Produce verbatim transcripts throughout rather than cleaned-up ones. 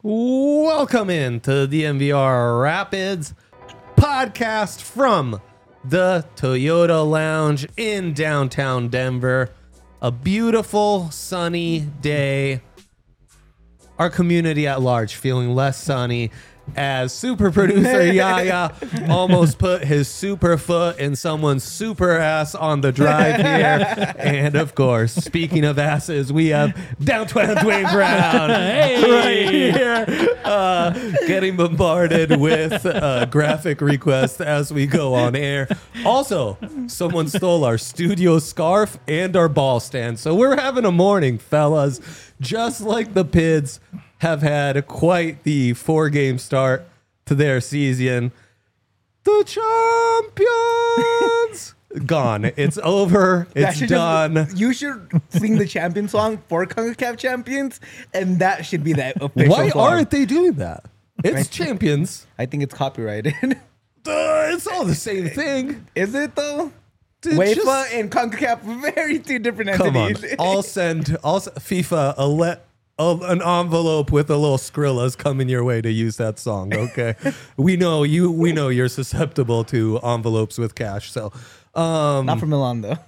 Welcome in to the M V R Rapids podcast from the Toyota Lounge in downtown Denver. A beautiful sunny day. Our community at large feeling less sunny as super producer Yaya almost put his super foot in someone's super ass on the drive here. And of course, speaking of asses, we have downtown Dwayne Brown hey. right here, uh, getting bombarded with uh, graphic requests as we go on air. Also, someone stole our studio scarf and our ball stand. So we're having a morning, fellas, just like the Pids have had quite the four-game start to their season. The champions! Gone. It's over. It's done. Just, you should sing the champion song for CONCACAF champions, and that should be that official Why song. aren't they doing that? It's champions. I think it's copyrighted. Uh, it's all the same thing. Is it, though? Dude, UEFA just, and CONCACAF, very two different come entities. on. I'll send I'll, s- FIFA a let. Of an envelope with a little Skrilla's coming your way to use that song. Okay, we know you. We know you're susceptible to envelopes with cash. So, um, Not for Milan, though.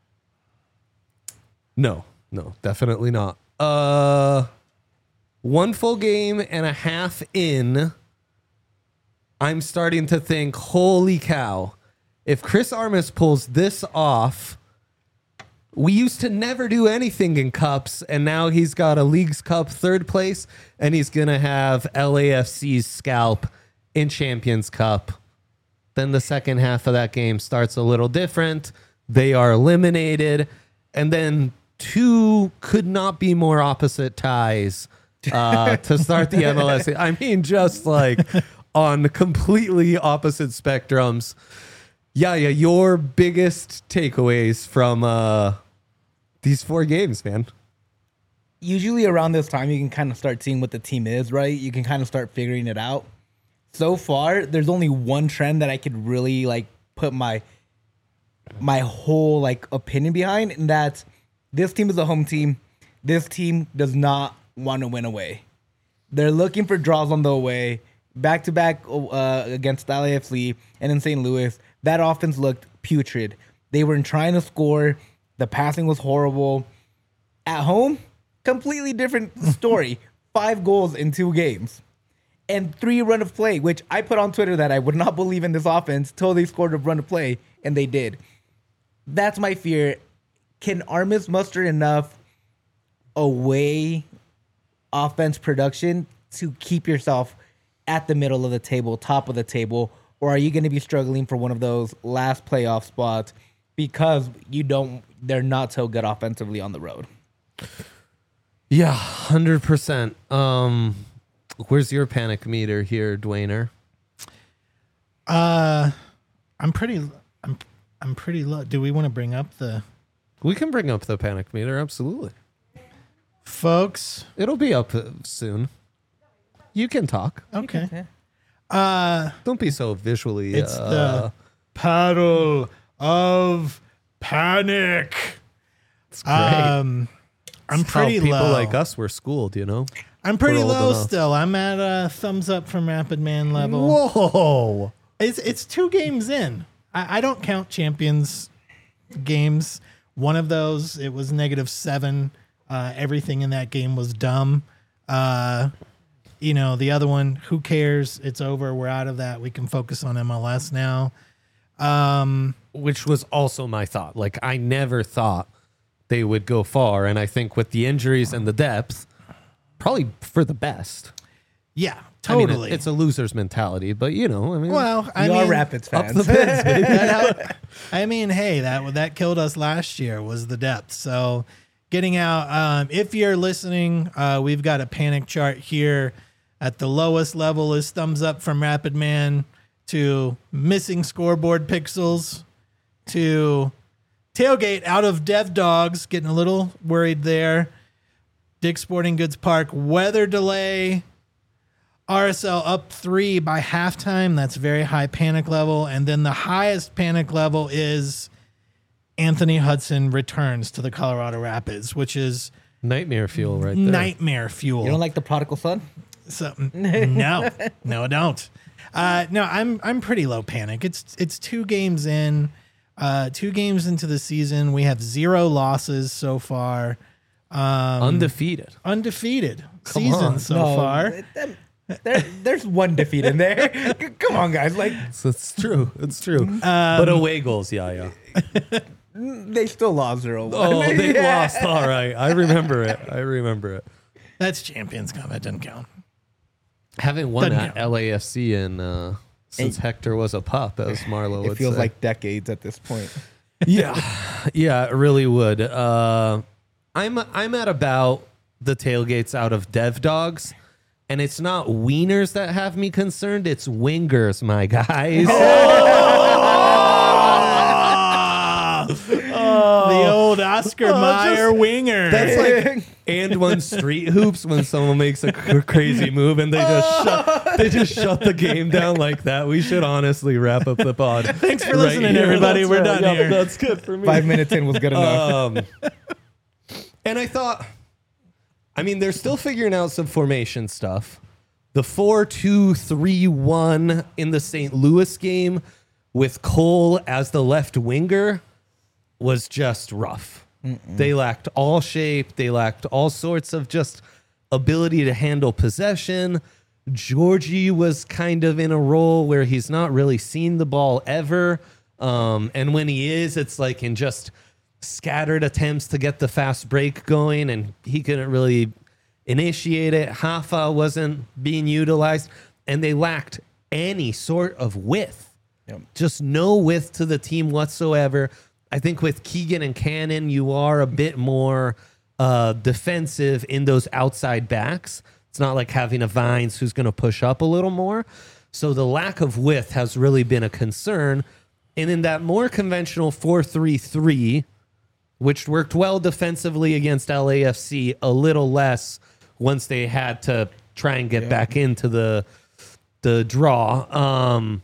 no, no, definitely not. Uh, one full game and a half in, I'm starting to think, holy cow! If Chris Armas pulls this off. We used to never do anything in cups, and now he's got a Leagues Cup third place, and he's going to have L A F C's scalp in Champions Cup. Then the second half of that game starts a little different. They are eliminated, and then two could not be more opposite ties uh, to start the M L S. I mean, just like on completely opposite spectrums. Yeah, yeah, your biggest takeaways from uh, these four games, man. Usually around this time, you can kind of start seeing what the team is, right? You can kind of start figuring it out. So far, there's only one trend that I could really like put my my whole like opinion behind, and that's this team is a home team. This team does not want to win away. They're looking for draws on the away, back to back uh, against L A F C and in Saint Louis. That offense looked putrid. They were trying to score. The passing was horrible. At home, completely different story. Five goals in two games. And three run of play, which I put on Twitter that I would not believe in this offense till they scored a run of play, and they did. That's my fear. Can Armas muster enough away offense production to keep yourself at the middle of the table, top of the table, or are you going to be struggling for one of those last playoff spots because you don't? They're not so good offensively on the road. Yeah, one hundred percent. Um, where's your panic meter here, Dwayner? Uh, I'm pretty. I'm. I'm pretty low. Do we want to bring up the? We can bring up the panic meter, absolutely. Folks, it'll be up soon. You can talk. Okay. Can, Uh, Don't be so visually. it's uh, the paddle of panic. It's great. Um, I'm It's how pretty people low. like us were schooled, you know. I'm pretty We're old low enough. still. I'm at a thumbs up from Rapid Man level. Whoa! It's it's two games in. I, I don't count champions games. One of those, it was negative seven. Uh, everything in that game was dumb. Uh, you know, the other one, who cares? It's over. We're out of that. We can focus on M L S now. Um, Which was also my thought. Like, I never thought they would go far, and I think with the injuries and the depth, probably for the best. yeah, I mean, totally. it- it's a loser's mentality, but you know, I mean, well, I you mean, are Rapids up fans. the Pids, baby. that helped. I mean, hey, that that killed us last year was the depth. So getting out, um, if you're listening, uh, we've got a panic chart here. At the lowest level is thumbs up from Rapid Man to missing scoreboard pixels to tailgate out of Dev Dogs, getting a little worried there. Dick's Sporting Goods Park, weather delay. R S L up three by halftime. That's very high panic level. And then the highest panic level is Anthony Hudson returns to the Colorado Rapids, which is Nightmare fuel right there. nightmare fuel. You don't like the prodigal son? So no, no, don't. Uh, no, I'm I'm pretty low panic. It's it's two games in, uh, two games into the season. We have zero losses so far. Um, Undefeated. Undefeated Come season on. so No, far. it- that- there, there's one defeat in there. Come on, guys. Like So it's true. It's true. Um, but away goals, yeah, yeah. they still lost zero. Oh, they lost. All right. I remember it. I remember it. That's Champions Cup. That doesn't count. Haven't won Doesn't at count. L A F C in uh, since And- Hector was a pup, as Marlo It would feels say. like decades at this point. yeah, yeah, it really would. Uh, I'm I'm at about the tailgates out of Dev Dogs, and it's not wieners that have me concerned. It's wingers, my guys. The old Oscar Mayer winger. That's like and one street hoops when someone makes a cr- crazy move and they just shut they just shut the game down like that. We should honestly wrap up the pod. Thanks for listening, everybody. That's We're right. done Yeah, here. That's good for me. Five minutes in was good enough. Um, and I thought, I mean, they're still figuring out some formation stuff. The four two three one in the Saint Louis game with Cole as the left winger was just rough. Mm-mm. They lacked all shape. They lacked all sorts of just ability to handle possession. Georgie was kind of in a role where he's not really seen the ball ever. Um, and when he is, it's like in just scattered attempts to get the fast break going, and he couldn't really initiate it. Hafa wasn't being utilized, and they lacked any sort of width. Yep. Just no width to the team whatsoever. I think with Keegan and Cannon, you are a bit more uh, defensive in those outside backs. It's not like having a Vines who's going to push up a little more. So the lack of width has really been a concern. And in that more conventional four three three, which worked well defensively against L A F C, a little less once they had to try and get Yeah. back into the the draw. Um,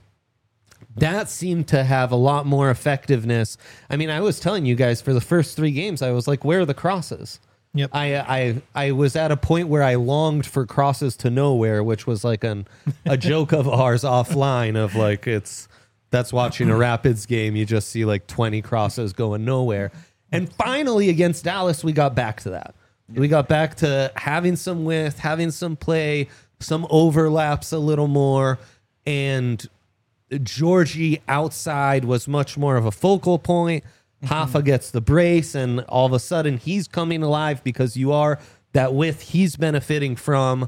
that seemed to have a lot more effectiveness. I mean, I was telling you guys for the first three games, I was like, where are the crosses? Yep. I I I was at a point where I longed for crosses to nowhere, which was like an a joke of ours offline of like it's that's watching a Rapids game. You just see like twenty crosses going nowhere. And finally against Dallas, we got back to that. We got back to having some width, having some play, some overlaps a little more, and Georgie outside was much more of a focal point. Hafa gets the brace, and all of a sudden he's coming alive because you are that width he's benefiting from.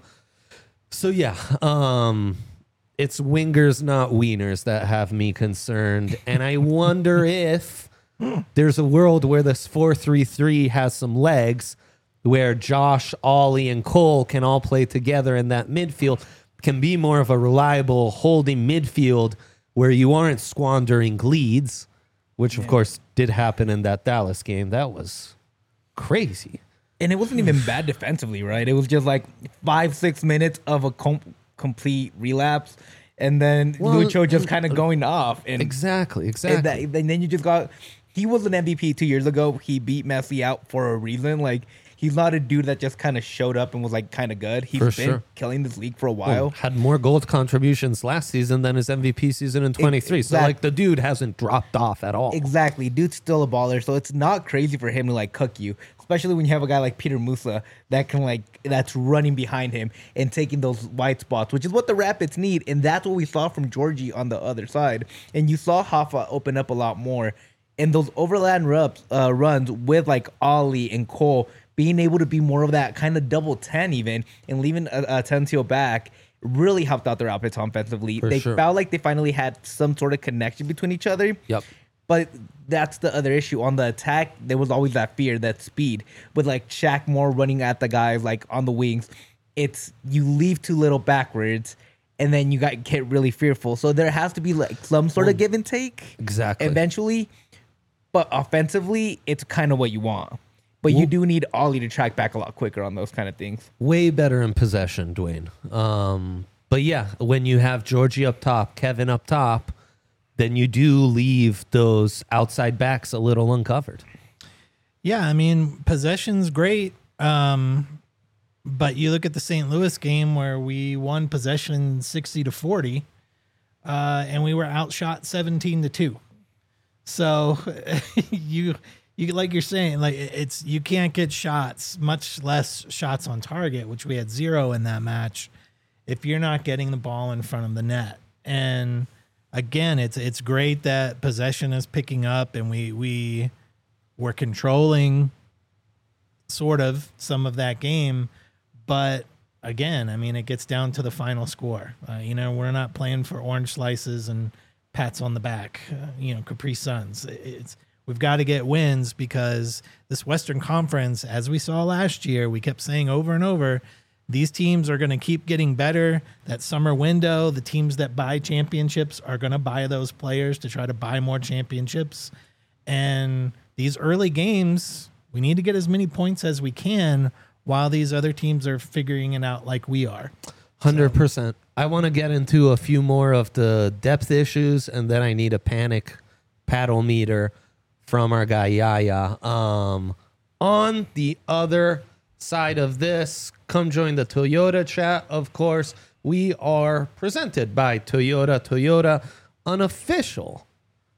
So yeah, um, it's wingers, not wieners, that have me concerned. And I wonder if there's a world where this four three three has some legs, where Josh, Ollie, and Cole can all play together in that midfield, can be more of a reliable holding midfield where you aren't squandering leads, which of course did happen in that Dallas game. That was crazy. And it wasn't even bad defensively, right? It was just like five, six minutes of a com- complete relapse, and then Well, Lucho just kind of going off. And, Exactly, and, exactly. that, and then you just got... He was an M V P two years ago. He beat Messi out for a reason. Like, he's not a dude that just kind of showed up and was like kind of good. He's For been sure. killing this league for a Well, while. had more goal contributions last season than his M V P season in twenty-three. So Exact- like the dude hasn't dropped off at all. Exactly. Dude's still a baller, so it's not crazy for him to like cook you, especially when you have a guy like Peter Musa that can like that's running behind him and taking those wide spots, which is what the Rapids need, and that's what we saw from Georgie on the other side. And you saw Hafa open up a lot more, and those overland runs, uh, runs with like Ollie and Cole being able to be more of that kind of double ten even, and leaving a, a Tensio back really helped out their Rapids offensively. For they sure. felt like they finally had some sort of connection between each other. Yep. But that's the other issue. On the attack, there was always that fear, that speed. With like Shaq Moore running at the guys like on the wings, it's you leave too little backwards, and then you got get really fearful. So there has to be like some sort of give and take Exactly. eventually. But offensively, it's kind of what you want. But you do need Ollie to track back a lot quicker on those kind of things. Way better in possession, Dwayne. Um, but yeah, when you have Georgie up top, Kevin up top, then you do leave those outside backs a little uncovered. Yeah, I mean, possession's great. Um, But you look at the Saint Louis game where we won possession sixty to forty, uh, and we were outshot seventeen to two. So you you like you're saying, like it's you can't get shots, much less shots on target, which we had zero in that match, if you're not getting the ball in front of the net. And again, it's it's great that possession is picking up, and we we were controlling sort of some of that game. But again, I mean, it gets down to the final score. Uh, you know, we're not playing for orange slices and pats on the back, uh, you know, Capri Suns. It's we've got to get wins, because this Western Conference, as we saw last year, we kept saying over and over, these teams are going to keep getting better. That summer window, the teams that buy championships are going to buy those players to try to buy more championships. And these early games, we need to get as many points as we can while these other teams are figuring it out like we are. one hundred percent. I want to get into a few more of the depth issues, and then I need a panic paddle meter from our guy Yaya. Um, on the other side of this, come join the Toyota chat, of course. We are presented by Toyota. Toyota, an official,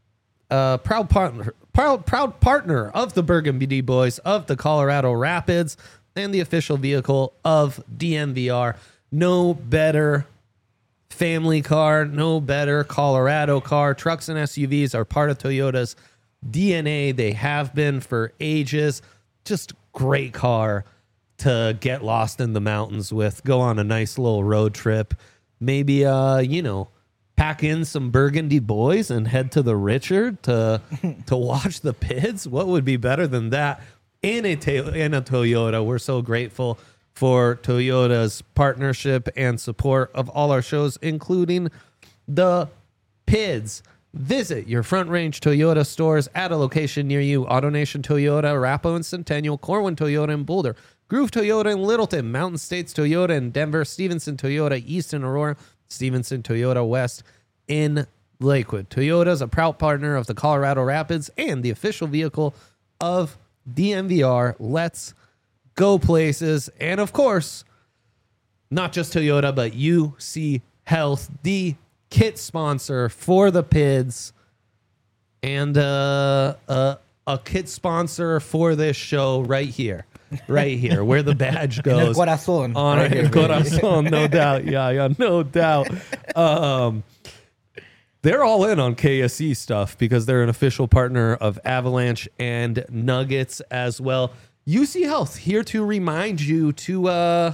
uh, proud partner, proud, proud partner of the Burgundy Boys of the Colorado Rapids, and the official vehicle of D N V R. No better family car, no better Colorado car. Trucks and S U Vs are part of Toyota's D N A. They have been for ages. Just great car to get lost in the mountains with. Go on a nice little road trip. Maybe, uh, you know, pack in some Burgundy Boys and head to the Richard to to watch the P I Ds. What would be better than that? In a, in a Toyota. We're so grateful for Toyota's partnership and support of all our shows, including the P I Ds. Visit your Front Range Toyota stores at a location near you. AutoNation Toyota, Arapahoe and Centennial, Corwin Toyota in Boulder, Groove Toyota in Littleton, Mountain States Toyota in Denver, Stevenson Toyota East in Aurora, Stevenson Toyota West in Lakewood. Toyota is a proud partner of the Colorado Rapids and the official vehicle of D N V R. Let's go places. And of course, not just Toyota, but U C Health, the kit sponsor for the P I Ds, and uh, uh, a kit sponsor for this show right here. Right here, where the badge goes. En el corazón. On Right el here, baby. corazón, no doubt. Yeah, yeah, no doubt. Um, they're all in on K S E stuff because they're an official partner of Avalanche and Nuggets as well. U C Health here to remind you to uh,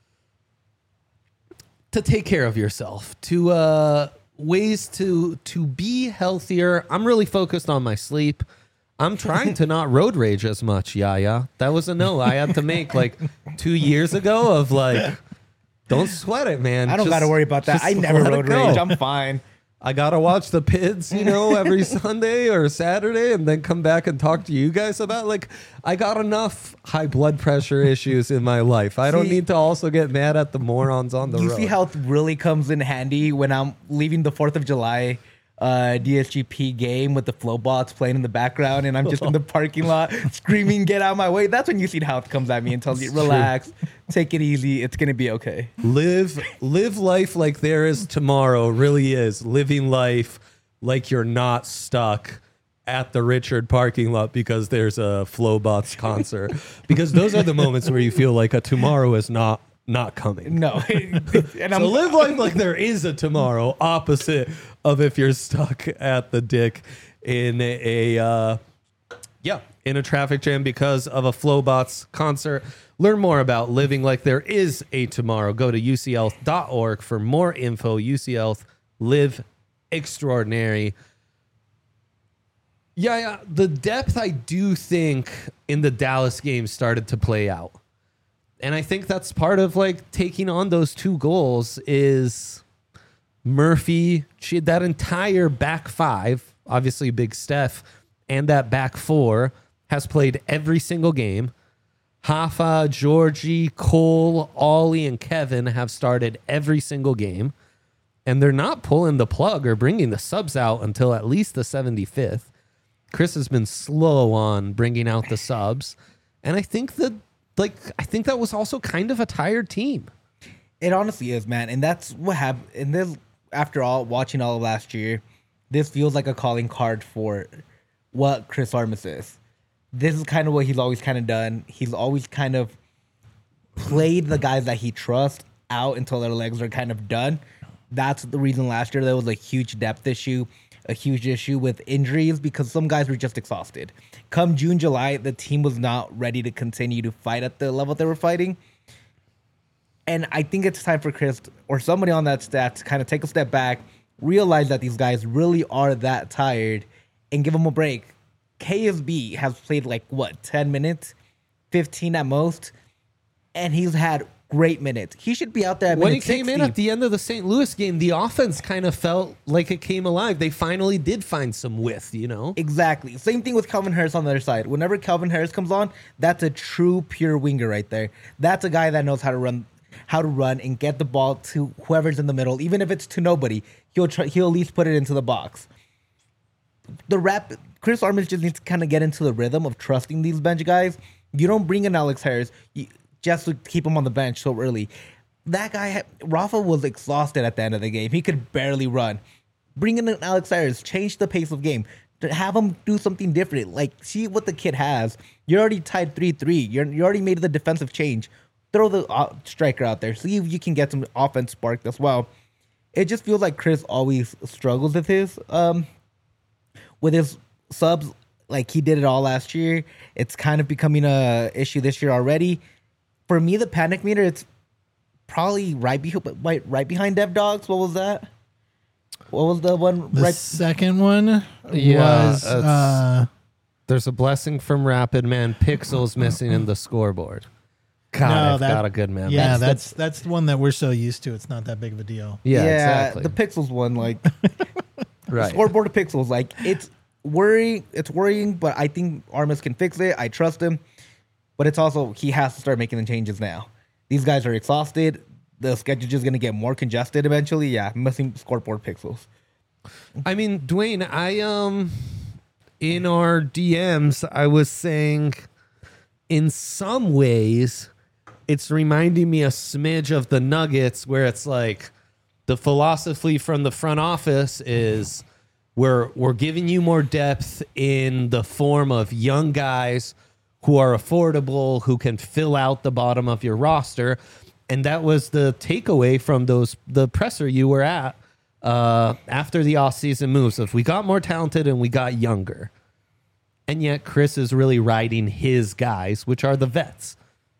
to take care of yourself, to uh, ways to to be healthier. I'm really focused on my sleep. I'm trying to not road rage as much, Yaya. That was a no I had to make like two years ago of like, don't sweat it, man. I don't Just- got to worry about that. just I never let it road go. rage. I'm fine. I got to watch the P I Ds, you know, every Sunday or Saturday and then come back and talk to you guys about, like, I got enough high blood pressure issues in my life. I don't See- need to also get mad at the morons on the You road. see how it really comes in handy when I'm leaving the fourth of July uh, D S G P game with the Flowbots playing in the background and I'm just in the parking lot screaming, get out of my way. That's when you see how it comes at me and tells you, relax, take it easy. It's going to be okay. Live live life like there is tomorrow really is living life like you're not stuck at the Richard parking lot because there's a Flowbots concert. Because those are the moments where you feel like a tomorrow is not not coming. No. and So live life like there is a tomorrow, opposite of if you're stuck at the dick in a, a uh, yeah, in a traffic jam because of a Flowbots concert. Learn more about living like there is a tomorrow. Go to U C health dot org for more info. U C Health, live extraordinary. Yeah, yeah, the depth I do think in the Dallas game started to play out. And I think that's part of like taking on those two goals is Murphy, she had that entire back five, obviously Big Steph, and that back four has played every single game. Hoffa, Georgie, Cole, Ollie, and Kevin have started every single game. And they're not pulling the plug or bringing the subs out until at least the seventy-fifth. Chris has been slow on bringing out the subs. And I think that like I think that was also kind of a tired team. It honestly is, man. And that's what happened. And this, after all, watching all of last year, this feels like a calling card for what Chris Armas is. This is kind of what he's always kind of done. He's always kind of played the guys that he trusts out until their legs are kind of done. That's the reason last year there was a huge depth issue, a huge issue with injuries because some guys were just exhausted. Come June, July, the team was not ready to continue to fight at the level they were fighting. And I think it's time for Chris or somebody on that staff to kind of take a step back, realize that these guys really are that tired, and give them a break. K S B has played like, what, ten minutes? fifteen at most? And he's had great minutes. He should be out there at When he minute came in sixty. at the end of the Saint Louis game, the offense kind of felt like it came alive. They finally did find some width, you know? Exactly. Same thing with Calvin Harris on the other side. Whenever Calvin Harris comes on, that's a true pure winger right there. That's a guy that knows how to run how to run and get the ball to whoever's in the middle. Even if it's to nobody, he'll try, he'll at least put it into the box. The rap Chris Armas just needs to kind of get into the rhythm of trusting these bench guys. You don't bring in Alex Harris you, just to keep him on the bench so early. That guy, Rafa, was exhausted at the end of the game. He could barely run. Bringing in Alex Harris, change the pace of game. To have him do something different. Like, see what the kid has. You're already tied three three. You're, you already made the defensive change. Throw the uh, striker out there. See if you can get some offense sparked as well. It just feels like Chris always struggles with his um, with his subs. Like he did it all last year. It's kind of becoming a issue this year already. For me, the panic meter, it's probably right, be- right, right behind Dev Dogs. What was that? What was the one? The right second one Yeah, was it's- uh, There's a blessing from Rapid, man. Pixels missing in the scoreboard. God, No, I've that- got a good man. yeah, That's- that's that's the one that we're so used to. It's not that big of a deal. yeah, exactly. the Pixels one, like right. scoreboard of Pixels, like it's worrying. It's worrying, but I think Armas can fix it. I trust him, but it's also he has to start making the changes now. These guys are exhausted. The schedule is going to get more congested eventually. Yeah, missing scoreboard Pixels. I mean, Dwayne, I um in our D Ms, I was saying in some ways it's reminding me a smidge of the Nuggets where it's like the philosophy from the front office is we're we're giving you more depth in the form of young guys who are affordable, who can fill out the bottom of your roster. And that was the takeaway from those the presser you were at uh, after the offseason moves. If we got more talented and we got younger. And yet Chris is really riding his guys, which are the vets.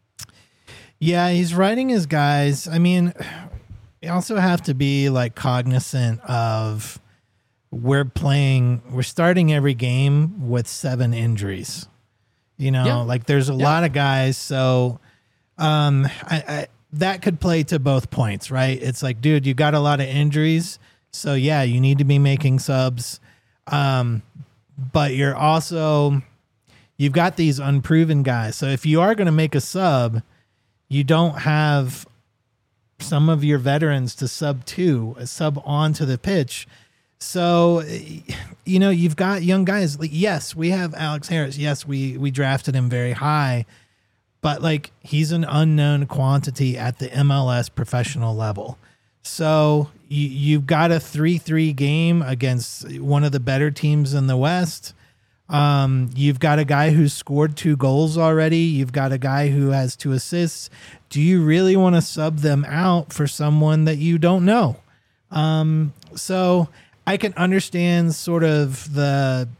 Yeah, he's riding his guys. I mean, you also have to be like cognizant of we're playing, we're starting every game with seven injuries. You know, Yeah. like there's a Yeah. lot of guys. So um, I, I, that could play to both points, right? It's like, dude, you got a lot of injuries. So yeah, you need to be making subs. Um, but you're also, you've got these unproven guys. So if you are going to make a sub, you don't have some of your veterans to sub to, a sub onto the pitch. So, you know, you've got young guys. Like, yes, we have Alex Harris. Yes, we we drafted him very high, but like he's an unknown quantity at the M L S professional level. So you, you've got a three three game against one of the better teams in the West. Um, you've got a guy who's scored two goals already. You've got a guy who has two assists. Do you really want to sub them out for someone that you don't know? Um, so I can understand sort of the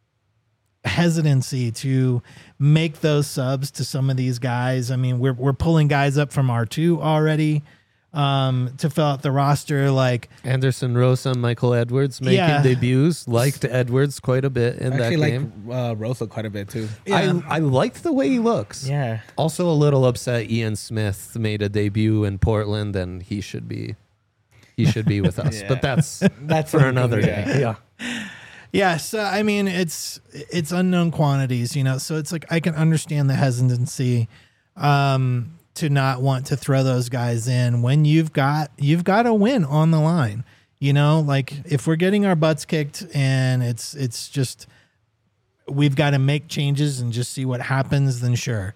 hesitancy to make those subs to some of these guys. I mean, we're we're pulling guys up from R two already um, to fill out the roster. Like Anderson Rosa, Michael Edwards making Yeah. debuts. Liked Edwards quite a bit in I actually that like game. uh, Rosa quite a bit too. Yeah. I, I liked the way he looks. Yeah. Also a little upset Ian Smith made a debut in Portland and he should be he should be with us. Yeah. But that's That's for something, another yeah. day. Yeah. Yeah, so I mean, it's it's unknown quantities, you know. So it's like I can understand the hesitancy um, to not want to throw those guys in when you've got you've got a win on the line. You know, like if we're getting our butts kicked and it's it's just we've got to make changes and just see what happens, then sure,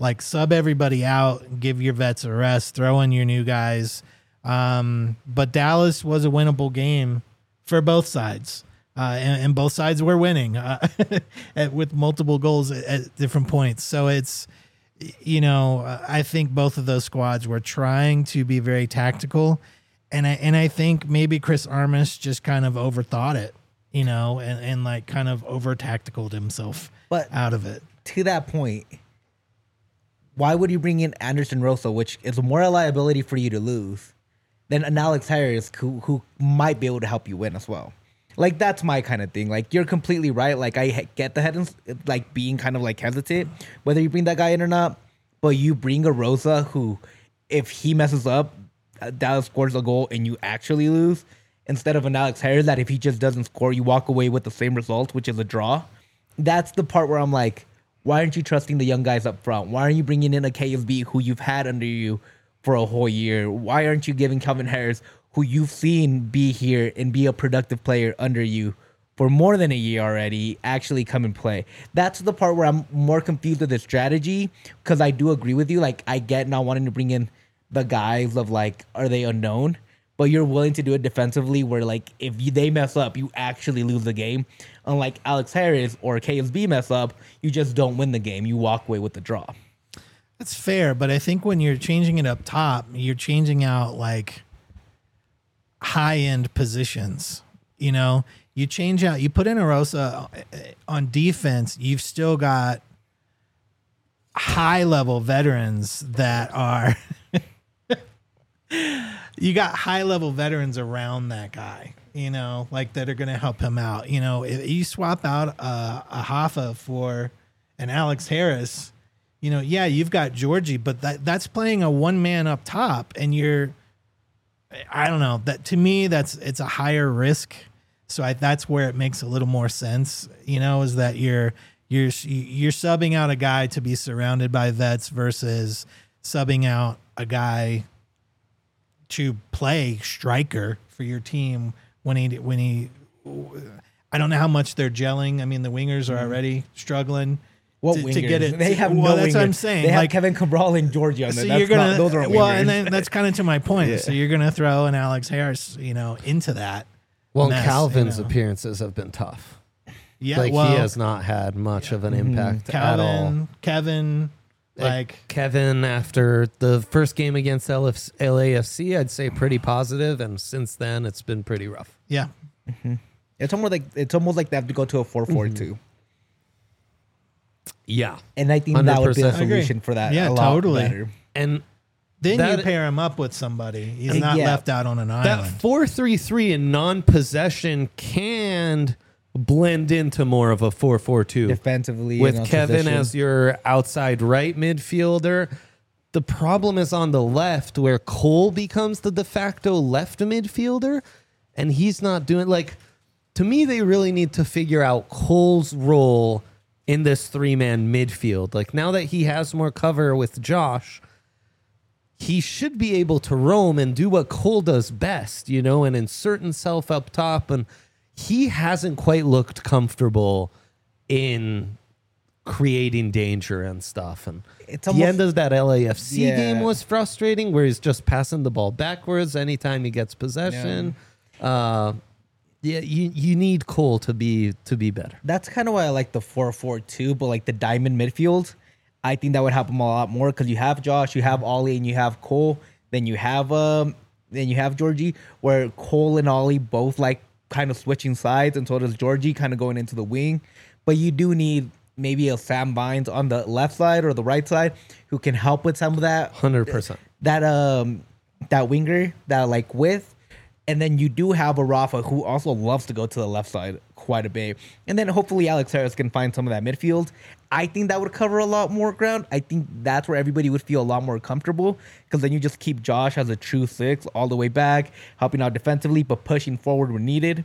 Like sub everybody out, give your vets a rest, throw in your new guys. Um, but Dallas was a winnable game for both sides. Uh, and, and both sides were winning uh, at, with multiple goals at, at different points. So it's, you know, I think both of those squads were trying to be very tactical. And I, and I think maybe Chris Armas just kind of overthought it, you know, and, and like kind of over tacticaled himself But out of it. To that point, why would you bring in Anderson Rosa, which is more a liability for you to lose, than an Alex Harris who, who might be able to help you win as well? Like, that's my kind of thing. Like, you're completely right. Like, I get the head, like, being kind of, like, hesitant, whether you bring that guy in or not. But you bring a Rosa who, if he messes up, Dallas scores a goal and you actually lose, instead of an Alex Harris that if he just doesn't score, you walk away with the same result, which is a draw. That's the part where I'm like, why aren't you trusting the young guys up front? Why aren't you bringing in a K S B who you've had under you for a whole year? Why aren't you giving Kelvin Harris, who you've seen be here and be a productive player under you for more than a year already, actually come and play? That's the part where I'm more confused with the strategy, because I do agree with you. Like, I get not wanting to bring in the guys of, like, are they unknown? But you're willing to do it defensively where, like, if you, they mess up, you actually lose the game. Unlike Alex Harris or K S B mess up, you just don't win the game. You walk away with the draw. That's fair, but I think when you're changing it up top, you're changing out, like, high-end positions. You know, you change out, you put in a Rosa on defense, you've still got high-level veterans that are you got high-level veterans around that guy, you know, like that are going to help him out. You know, if you swap out a, a Hoffa for an Alex Harris, you know, yeah, you've got Georgie, but that that's playing a one-man up top, and you're, I don't know, that to me, that's, it's a higher risk. So I, that's where it makes a little more sense, you know, is that you're, you're, you're subbing out a guy to be surrounded by vets versus subbing out a guy to play striker for your team when he, when he, I don't know how much they're gelling. I mean, the wingers are already struggling. What to, wingers? to get it. They have well, no that's wingers. what I'm saying. They like, have Kevin Cabral and Georgia on so there. That's you're gonna, not, those are well, wingers. and then that's kind of to my point. Yeah. So you're going to throw an Alex Harris, you know, into that. Well, mess, Calvin's you know. appearances have been tough. Yeah, like well, he has not had much of an impact at all. Calvin, Kevin, like Kevin, after the first game against L A F C, I'd say pretty positive, and since then it's been pretty rough. yeah. Mm-hmm. It's almost like it's almost like they have to go to a four four two. Yeah, And I think one hundred that would be a percent. solution for that. Yeah, a lot totally. better. and Then That- you pair him up with somebody. He's Uh, not yeah. left out on an that island. four three three in non-possession can blend into more of a four four two Defensively, with and on Kevin possession. as your outside right midfielder. The problem is on the left, where Cole becomes the de facto left midfielder, and he's not doing, like, to me, they really need to figure out Cole's role in this three-man midfield. Like, now that he has more cover with Josh, he should be able to roam and do what Cole does best, you know, and insert himself up top. And he hasn't quite looked comfortable in creating danger and stuff. And It's the almost- end of that L A F C Yeah. game was frustrating, where he's just passing the ball backwards anytime he gets possession. Uh, yeah, you you need Cole to be to be better. That's kind of why I like the four four two, but like the diamond midfield, I think that would help him a lot more because you have Josh, you have Ollie, and you have Cole. Then you have um, then you have Georgie, where Cole and Ollie both like kind of switching sides, and so does Georgie, kind of going into the wing. But you do need maybe a Sam Bynes on the left side or the right side who can help with some of that. one hundred percent. That um that winger that like with, and then you do have a Rafa who also loves to go to the left side quite a bit, and then hopefully Alex Harris can find some of that midfield. I think that would cover a lot more ground. I think that's where everybody would feel a lot more comfortable, because then you just keep Josh as a true six all the way back, helping out defensively but pushing forward when needed.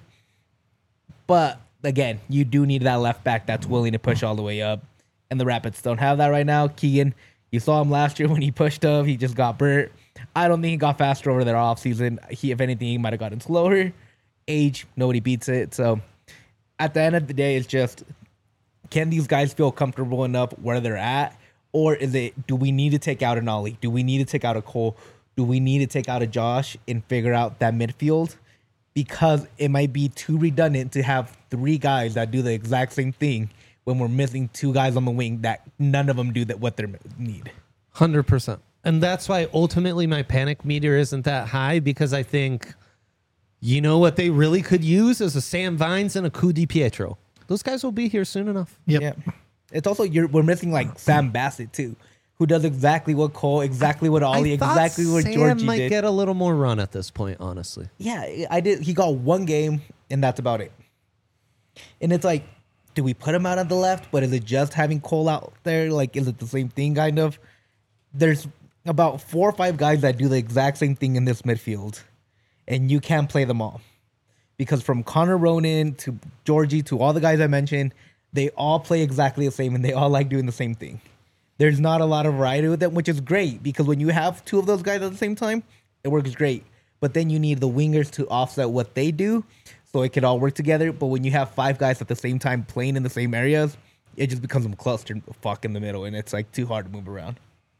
But again, you do need that left back that's willing to push all the way up, and the Rapids don't have that right now. Keegan, you saw him last year when he pushed up, he just got burnt. I don't think he got faster over their offseason. He, if anything, he might have gotten slower. Age, nobody beats it. So at the end of the day, it's just, can these guys feel comfortable enough where they're at, Or is it, do we need to take out an Ollie? Do we need to take out a Cole? Do we need to take out a Josh and figure out that midfield? Because it might be too redundant to have three guys that do the exact same thing when we're missing two guys on the wing that none of them do that what they need. one hundred percent. And that's why ultimately my panic meter isn't that high, because I think, you know what they really could use is a Sam Vines and a Ku Di Pietro. Those guys will be here soon enough. Yep. Yeah. It's also, you're, we're missing like Sam Bassett too, who does exactly what Cole, exactly what Ollie, I thought exactly what Sam Georgie might did. get a little more run at this point, honestly. Yeah, I did. He got one game, and that's about it. And it's like, do we put him out on the left? But is it just having Cole out there? Like, is it the same thing, kind of? There's about four or five guys that do the exact same thing in this midfield, and you can't play them all. Because from Connor Ronan to Georgie to all the guys I mentioned, they all play exactly the same, and they all like doing the same thing. There's not a lot of variety with them, which is great, because when you have two of those guys at the same time, it works great. But then you need the wingers to offset what they do, so it could all work together. But when you have five guys at the same time playing in the same areas, it just becomes a cluster fuck in the middle, and it's like too hard to move around.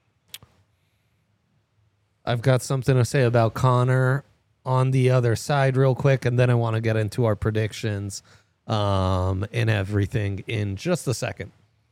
I've got something to say about Connor on the other side real quick, and then I want to get into our predictions um, and everything in just a second.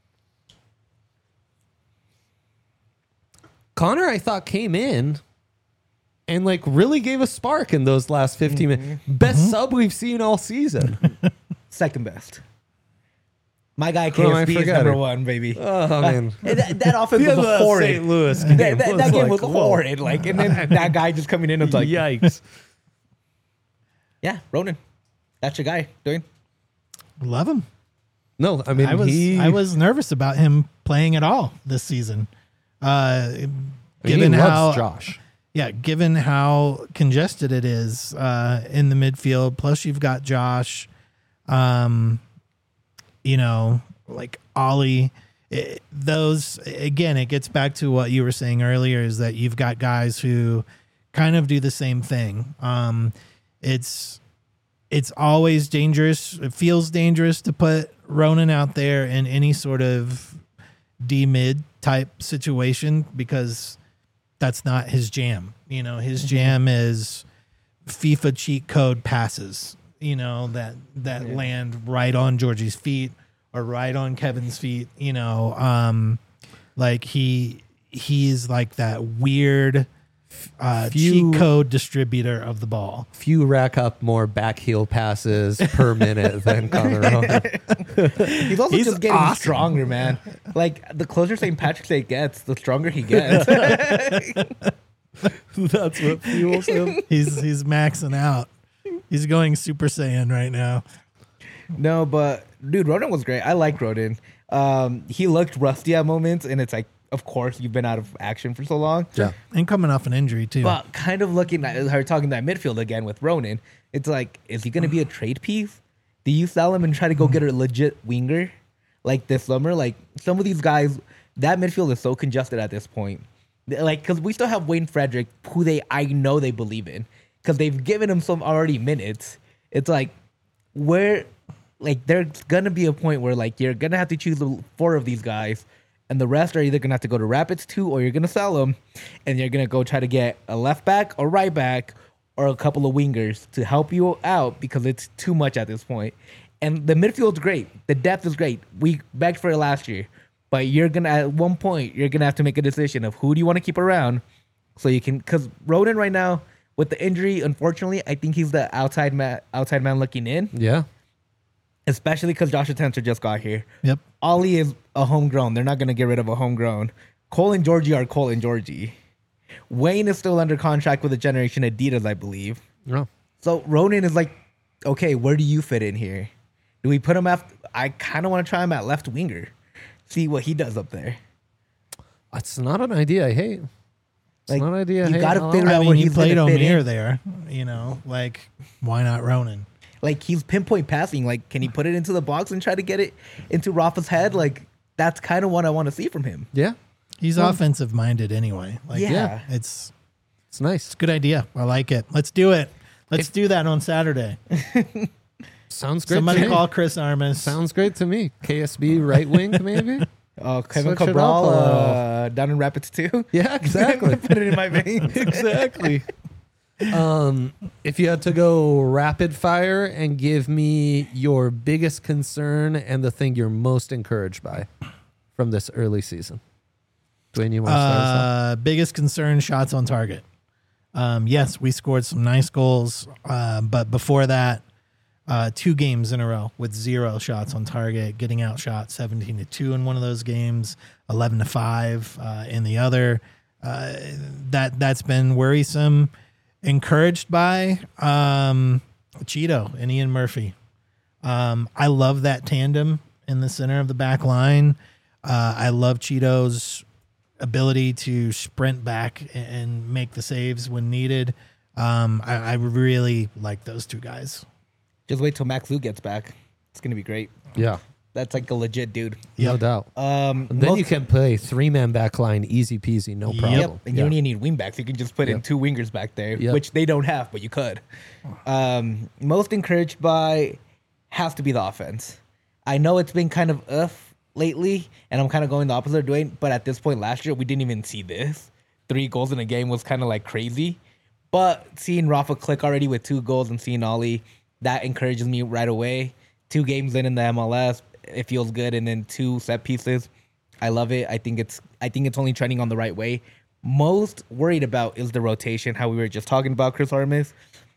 Connor, I thought, came in and like really gave a spark in those last fifteen Mm-hmm. minutes. Best mm-hmm. sub we've seen all season. Second best. My guy Who am I K S B is forgetting? number one, baby. Oh, man. Uh, that, that offense was The horrid. Saint Louis That, game that, was that game like, was whoa. horrid. Like, and then that guy just coming in and like, Yikes. yeah, Ronan, that's your guy, doing. Love him. No, I mean, I was he, I was nervous about him playing at all this season. Uh, I mean, given he how loves Josh. Yeah, given how congested it is uh, in the midfield, plus you've got Josh, um, you know, like Ollie. It, those, again, it gets back to what you were saying earlier, is that you've got guys who kind of do the same thing. Um, it's it's always dangerous. It feels dangerous to put Ronan out there in any sort of D-mid type situation, because that's not his jam. You know, his jam is FIFA cheat code passes, you know, that that Yeah. land right on Georgie's feet or right on Kevin's feet, you know. Um like he he's like that weird uh Few- cheat code distributor of the ball. Few rack up more back heel passes per minute than Connor Ronan. He's also He's just getting awesome. stronger, man. Like, the closer Saint Patrick's Day gets, the stronger he gets. That's what fuels him. He's he's maxing out. He's going Super Saiyan right now. No, but dude, Ronan was great. I like Ronan. Um, he looked rusty at moments, and it's like, of course, you've been out of action for so long. Yeah. And coming off an injury too. But kind of looking at her talking that midfield again with Ronan, it's like, is he going to be a trade piece? Do you sell him and try to go get a legit winger like this summer? Like, some of these guys, that midfield is so congested at this point. Like, because we still have Wayne Frederick, who they I know they believe in, because they've given him some already minutes. It's like, where, like, there's gonna be a point where like you're gonna have to choose four of these guys, and the rest are either gonna have to go to Rapids two, or you're gonna sell them, and you're gonna go try to get a left back or right back or a couple of wingers to help you out, because it's too much at this point. And the midfield's great, the depth is great. We begged for it last year. But you're gonna at one point you're gonna have to make a decision of who do you want to keep around, so you can, because Ronan right now with the injury, unfortunately, I think he's the outside man, outside man looking in, Yeah. especially because Joshua Tensor just got here. Yep. Ollie is a homegrown. They're not gonna get rid of a homegrown. Cole and Georgie are Cole and Georgie. Wayne is still under contract with the Generation Adidas, I believe. No. So Ronan is like, okay, where do you fit in here? Do we put him after? I kind of want to try him at left winger. See what he does up there. It's not an idea I hate. It's Like, not an idea I you hate gotta at all. figure I out mean, where he he's played gonna fit O'Meara in. there, you know, like why not Ronan? Like, he's pinpoint passing. Like, can he put it into the box and try to get it into Rafa's head? Like, that's kind of what I want to see from him. Yeah. He's offensive minded anyway. Like, Yeah. yeah, it's It's nice. it's a good idea. I like it. Let's do it. Let's do that on Saturday. Sounds great Somebody to me. call Chris Armas. Sounds great to me. K S B right wing, maybe? Oh, Kevin Switch it up Cabral a little. uh, down in Rapids too. Yeah, exactly. Put it in my veins. Exactly. Um, if you had to go rapid fire and give me your biggest concern and the thing you're most encouraged by from this early season, Dwayne, you want to start us off? Uh, biggest concern: shots on target. Um, yes, we scored some nice goals, uh, but before that, uh, two games in a row with zero shots on target, getting outshot seventeen to two in one of those games, eleven to five uh, in the other. Uh, that that's been worrisome. Encouraged by um, Cheeto and Ian Murphy. Um, I love that tandem in the center of the back line. Uh, I love Cheeto's ability to sprint back and make the saves when needed. Um, I, I really like those two guys. Just wait till Max Lu gets back. It's gonna be great. Yeah, That's like a legit dude. no Yep. doubt. Um, And then most- you can play three man back line, easy peasy, no Yep. problem. Yep, and you Yeah. don't even need wing backs. You can just put in Yep. two wingers back there, Yep. which they don't have, but you could. Um, most encouraged by has to be the offense. I know it's been kind of uff lately, and I'm kind of going the opposite of Dwayne, but at this point last year, we didn't even see this. Three goals in a game was kind of like crazy. But seeing Rafa click already with two goals and seeing Ollie, that encourages me right away. Two games in in the M L S, it feels good, and then two set pieces. I love it. I think it's I think it's only trending on the right way. Most worried about is the rotation, how we were just talking about Chris Armas.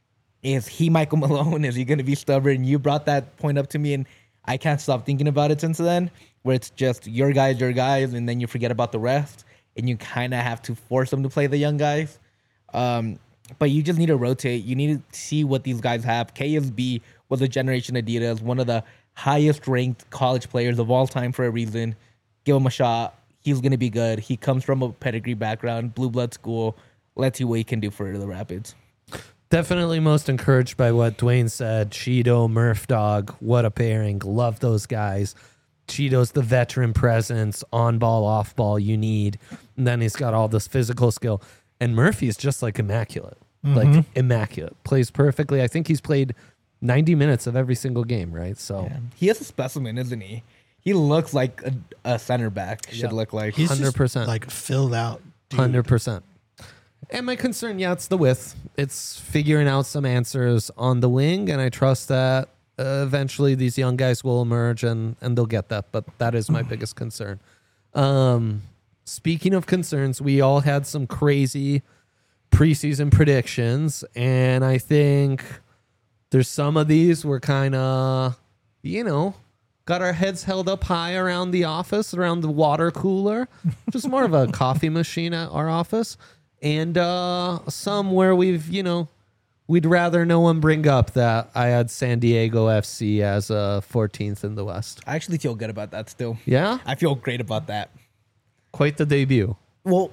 Is he Michael Malone? Is he going to be stubborn? You brought that point up to me, and I can't stop thinking about it since then, where it's just your guys, your guys, and then you forget about the rest, and you kind of have to force them to play the young guys. Um, but you just need to rotate. You need to see what these guys have. K S B was a generation Adidas, one of the highest ranked college players of all time for a reason. Give him a shot. He's going to be good. He comes from a pedigree background, blue blood school. Let's see what he can do for the Rapids. Definitely most encouraged by what Dwayne said. Cheeto, Murph Dog, what a pairing. Love those guys. Cheeto's the veteran presence, on ball, off ball you need. And then he's got all this physical skill. And Murphy's just like immaculate. Like immaculate. Plays perfectly. I think he's played ninety minutes of every single game, right? So Yeah. He is a specimen, isn't he? He looks like a, a center back should Yeah. look like. He's one hundred percent. just like filled out. dude. one hundred percent. And my concern, yeah, it's the width. It's figuring out some answers on the wing, and I trust that uh, eventually these young guys will emerge and, and they'll get that. But that is my biggest concern. Um, speaking of concerns, we all had some crazy preseason predictions, and I think there's some of these were kind of, you know, got our heads held up high around the office, around the water cooler, just more of a coffee machine at our office. And uh, some where we've, you know, we'd rather no one bring up that I had San Diego F C as uh, fourteenth in the West. I actually feel good about that still. Yeah? I feel great about that. Quite the debut. Well,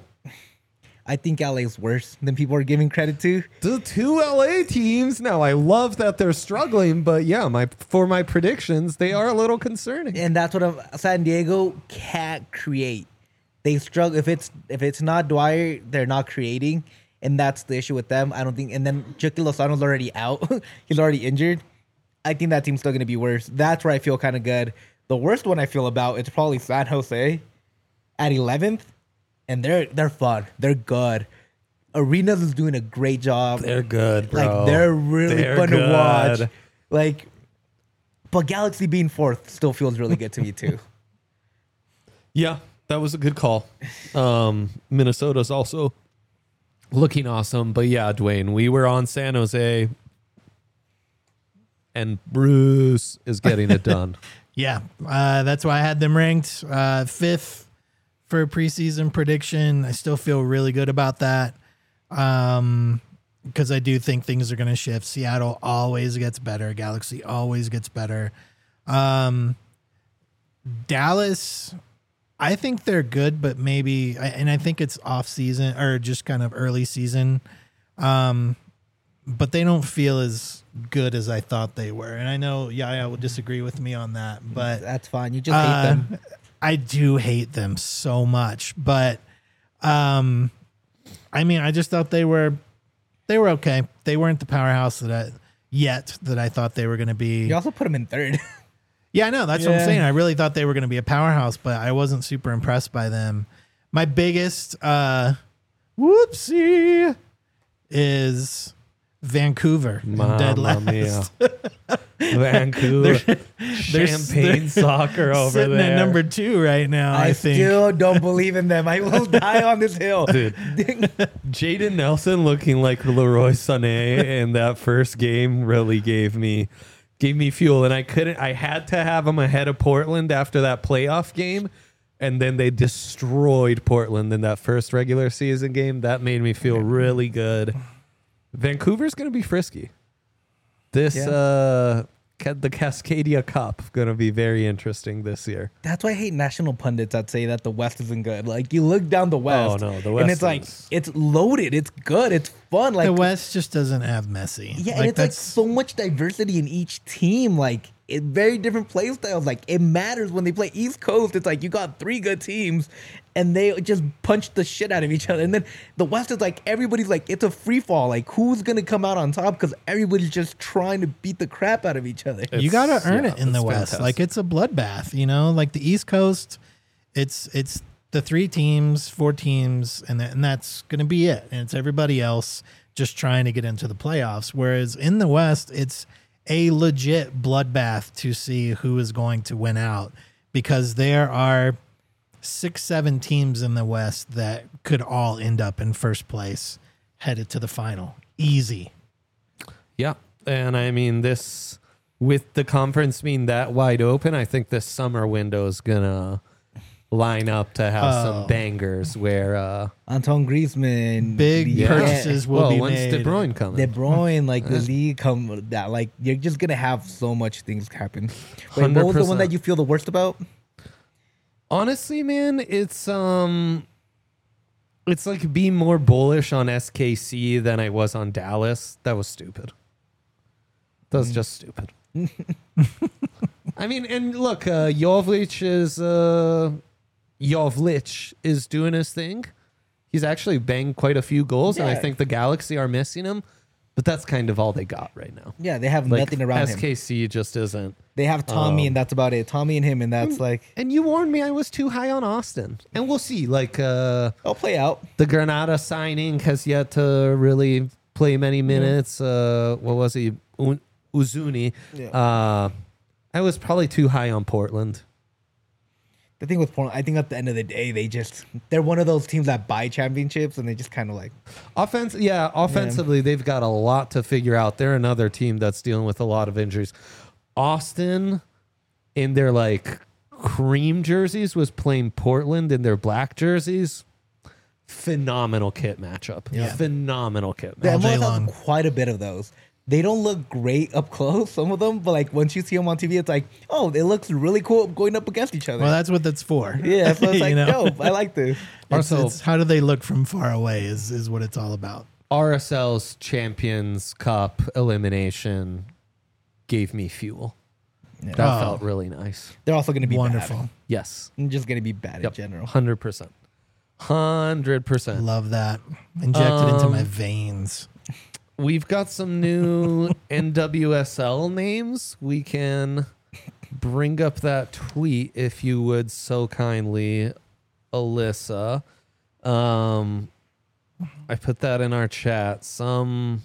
I think L A is worse than people are giving credit to. The two L A teams. Now, I love that they're struggling, but yeah, my for my predictions, they are a little concerning. And that's what I'm, San Diego can't create. They struggle if it's if it's not Dwyer, they're not creating, and that's the issue with them. I don't think. And then Chucky Lozano's already out; he's already injured. I think that team's still going to be worse. That's where I feel kind of good. The worst one I feel about is probably San Jose at eleventh, and they're they're fun. They're good. Arenas is doing a great job. They're good, bro. Like they're really They're fun good. to watch. Like, but Galaxy being fourth still feels really good to me too. Yeah, that was a good call. Um, Minnesota's also looking awesome. But yeah, Dwayne, we were on San Jose, and Bruce is getting it done. Yeah, uh, that's why I had them ranked uh, fifth for preseason prediction. I still feel really good about that um, because I do think things are going to shift. Seattle always gets better. Galaxy always gets better. Um, Dallas, I think they're good, but maybe, and I think it's off season or just kind of early season. Um, but they don't feel as good as I thought they were. And I know Yaya will disagree with me on that, but That's fine. You just hate uh, them. I do hate them so much. But um, I mean, I just thought they were they were okay. They weren't the powerhouse that I yet that I thought they were going to be. You also put them in third. Yeah, I know. That's what I'm Yeah. saying. I really thought they were going to be a powerhouse, but I wasn't super impressed by them. My biggest uh, whoopsie is Vancouver and dead Mamma last. mia. Vancouver. They're- Champagne they're soccer over Sitting there. at number two right now, I, I, think. still don't believe in them. I will die on this hill. Dude, Jaden Nelson looking like Leroy Sané in that first game really gave me gave me fuel, and I couldn't. I had to have him ahead of Portland after that playoff game, and then they destroyed Portland in that first regular season game. That made me feel really good. Vancouver's going to be frisky. This Yeah. uh, ca- the Cascadia Cup going to be very interesting this year. That's why I hate national pundits that say that the West isn't good. Like you look down the West, Oh, no, the and West it's like is- it's loaded, it's good, it's fun. Like the West just doesn't have Messi. yeah, and it's like so much diversity in each team. Like it very different play styles. Like it matters when they play East Coast. It's like you got three good teams, and they just punch the shit out of each other. And then the West is like everybody's like it's a free fall. Like who's gonna come out on top because everybody's just trying to beat the crap out of each other. you got to It's- earn yeah, it in the it's West. fantastic. Like it's a bloodbath, you know. Like the East Coast, it's it's the three teams, four teams, and that, and that's going to be it. And it's everybody else just trying to get into the playoffs. Whereas in the West, it's a legit bloodbath to see who is going to win out because there are six, seven teams in the West that could all end up in first place, headed to the final. Easy. Yeah. And I mean, this, with the conference being that wide open, I think this summer window is going to line up to have Oh. some bangers where, uh, Anton Griezmann, Big Yeah. purchases will well, be when's made. De Bruyne coming? De Bruyne, like the league, come that like you're just gonna have so much things happen. Wait, what was the one that you feel the worst about? Honestly, man, it's, um, it's like being more bullish on S K C than I was on Dallas. That was stupid. That was just stupid. I mean, and look, uh, Jovic is, uh, Jovic is doing his thing. He's actually banged quite a few goals, and I Yeah. think the Galaxy are missing him. But that's kind of all they got right now. Yeah, they have Like, nothing around him. S K C just isn't. They have Tommy, um, and that's about it. Tommy and him, and that's like And you warned me I was too high on Austin. And we'll see. Like, uh, I'll play out. the Granada signing has yet to really play many minutes. Uh, what was he? U- Uzuni. Yeah. Uh, I was probably too high on Portland. The thing with Portland, I think at the end of the day, they just they're one of those teams that buy championships, and they just kind of like Offense, yeah, offensively, they've got a lot to figure out. They're another team that's dealing with a lot of injuries. Austin, in their like cream jerseys, was playing Portland in their black jerseys. Phenomenal kit matchup. Yeah. Phenomenal kit the All matchup. day M L S long. has quite a bit of those. They don't look great up close, some of them, but like once you see them on T V, it's like, oh, it looks really cool going up against each other. Well, that's what that's for. yeah, so it's You like, know? dope. I like this. It's, Also- it's how do they look from far away is, is what it's all about. R S L's Champions Cup elimination gave me fuel. That Oh. felt really nice. They're also going to be Wonderful. bad. Yes. They're just going to be bad Yep. in general. one hundred percent. one hundred percent. Love that. Inject it into my Um, veins. We've got some new N W S L names. We can bring up that tweet if you would so kindly, Alyssa. Um, I put that in our chat. Some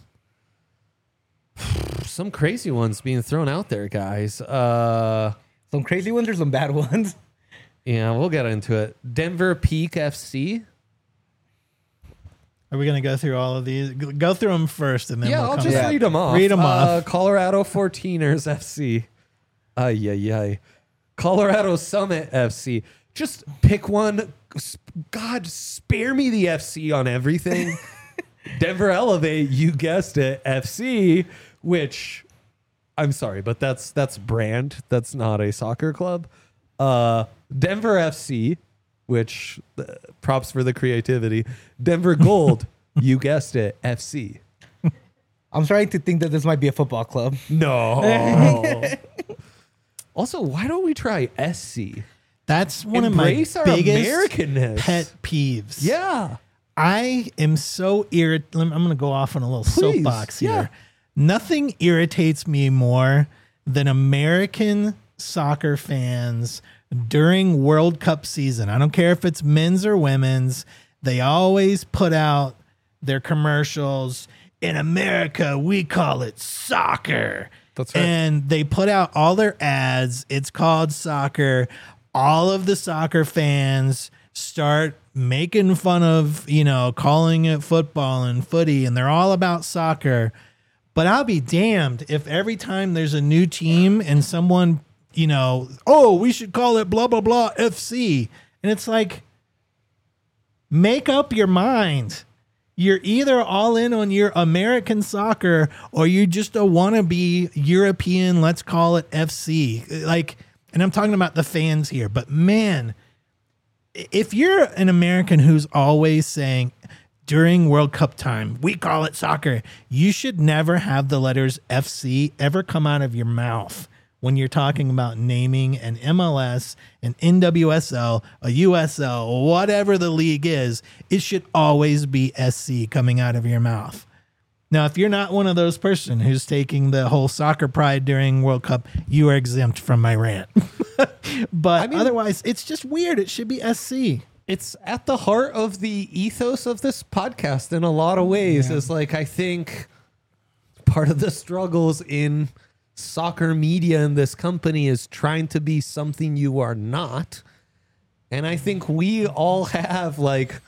some crazy ones being thrown out there, guys. Uh, Some crazy ones or some bad ones. yeah, we'll get into it. Denver Peak F C. Are we going to go through all of these? G- Go through them first and then Yeah, we'll I'll come just back. read them off. Read 'em uh, off. Colorado fourteeners F C. Ay, ay, ay. Colorado Summit F C. Just pick one. S- God, spare me the F C on everything. Denver Elevate, you guessed it, F C, which I'm sorry, but that's that's brand. That's not a soccer club. Uh, Denver F C, which uh, props for the creativity. Denver Gold, you guessed it, F C. I'm starting to think that this might be a football club. No. Also, why don't we try S C? That's one Embrace of my our biggest Americanness. pet peeves. Yeah. I am so irritated. I'm going to go off on a little Please, soapbox yeah. here. Nothing irritates me more than American soccer fans during World Cup season. I don't care if it's men's or women's. They always put out their commercials. In America, we call it soccer. That's right. And they put out all their ads. It's called soccer. All of the soccer fans start making fun of, you know, calling it football and footy, and they're all about soccer. But I'll be damned if every time there's a new team and someone, you know, oh, we should call it blah, blah, blah F C. And it's like, make up your mind. You're either all in on your American soccer or you just a wannabe European, let's call it F C. Like, and I'm talking about the fans here, but man, if you're an American who's always saying during World Cup time, we call it soccer, you should never have the letters F C ever come out of your mouth when you're talking about naming an M L S, an N W S L, a U S L, whatever the league is. It should always be S C coming out of your mouth. Now, if you're not one of those person who's taking the whole soccer pride during World Cup, you are exempt from my rant. But I mean, otherwise, it's just weird. It should be S C. It's at the heart of the ethos of this podcast in a lot of ways. Yeah. Is like, I think part of the struggles in soccer media in this company is trying to be something you are not. And I think we all have like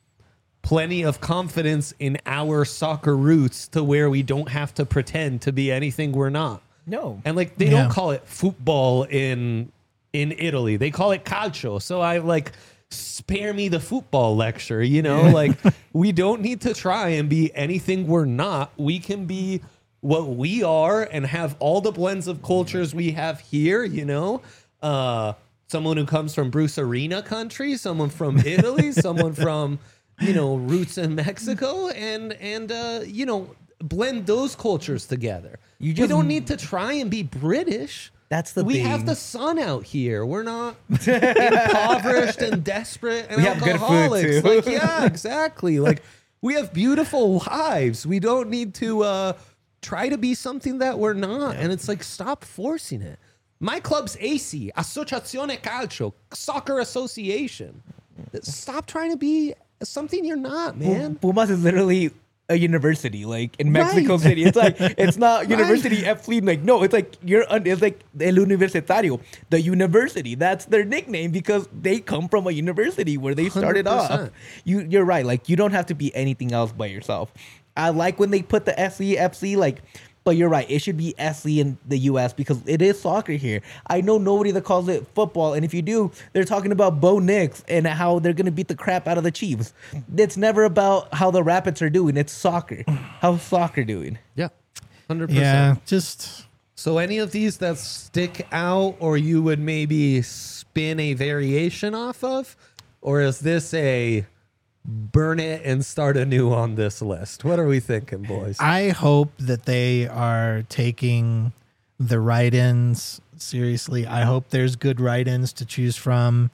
plenty of confidence in our soccer roots to where we don't have to pretend to be anything we're not. No. And like, they Yeah. don't call it football in in Italy. They call it calcio. So I like, spare me the football lecture, you know? Like, we don't need to try and be anything we're not. We can be what we are and have all the blends of cultures we have here, you know? Uh, someone who comes from Bruce Arena country, someone from Italy, someone from, you know, roots in Mexico, and, and uh, you know, blend those cultures together. You we just- don't need to try and be British. That's the we thing. have the sun out here. We're not impoverished and desperate and We have good food, alcoholics. too. Like, yeah, exactly. Like, we have beautiful lives. We don't need to uh, try to be something that we're not. And it's like, stop forcing it. My club's A C, Associazione Calcio, Soccer Association. Stop trying to be something you're not, man. Pumas is literally a university, like in Mexico Right. City. It's like, it's not University F Fleet. Like, no, it's like you're, un- it's like El Universitario, the university. That's their nickname because they come from a university where they started one hundred off. percent. You, you're right. Like, you don't have to be anything else by yourself. I like when they put the S C, F C, like, but you're right. It should be S C in the U S because it is soccer here. I know nobody that calls it football. And if you do, they're talking about Bo Nix and how they're going to beat the crap out of the Chiefs. It's never about how the Rapids are doing. It's soccer. How's soccer doing? Yeah, one hundred percent. Yeah, just So any of these that stick out or you would maybe spin a variation off of? Or is this a burn it and start anew on this list? What are we thinking, boys? I hope that they are taking the write-ins seriously. I hope there's good write-ins to choose from.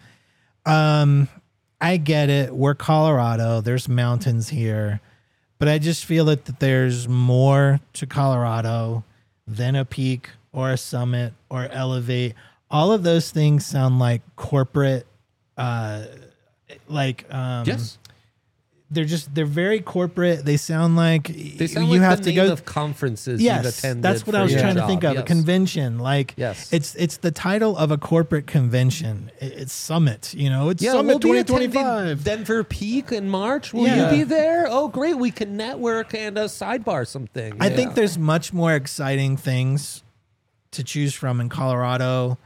Um, I get it. We're Colorado. There's mountains here. But I just feel that, that there's more to Colorado than a peak or a summit or elevate. All of those things sound like corporate, uh, like um, yes. they're just they're very corporate. They sound like They sound you like have the to name go. of conferences you've Yes, attended. that's what for I was your trying to job. think of. A Yes. convention, like Yes. it's it's the title of a corporate convention. It- It's Summit, you know. It's Yeah, Summit we'll be twenty attending twenty-five. Denver Peak in March. Will Yeah. you be there? Oh, great. We can network and uh, sidebar some things. I Yeah. think there's much more exciting things to choose from in Colorado.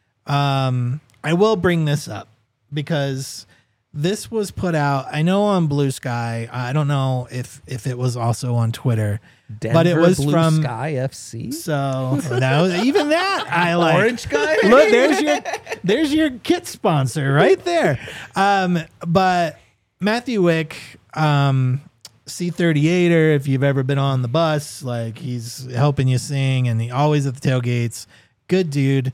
Um, I will bring this up because this was put out. I know on Blue Sky. I don't know if if it was also on Twitter, Denver but it was Blue from Sky F C. So that, even that I like. Orange guy? Look, there's your there's your kit sponsor right there. Um, but Matthew Wick, um, C thirty-eighter, if you've ever been on the bus, like he's helping you sing and he always at the tailgates. Good dude.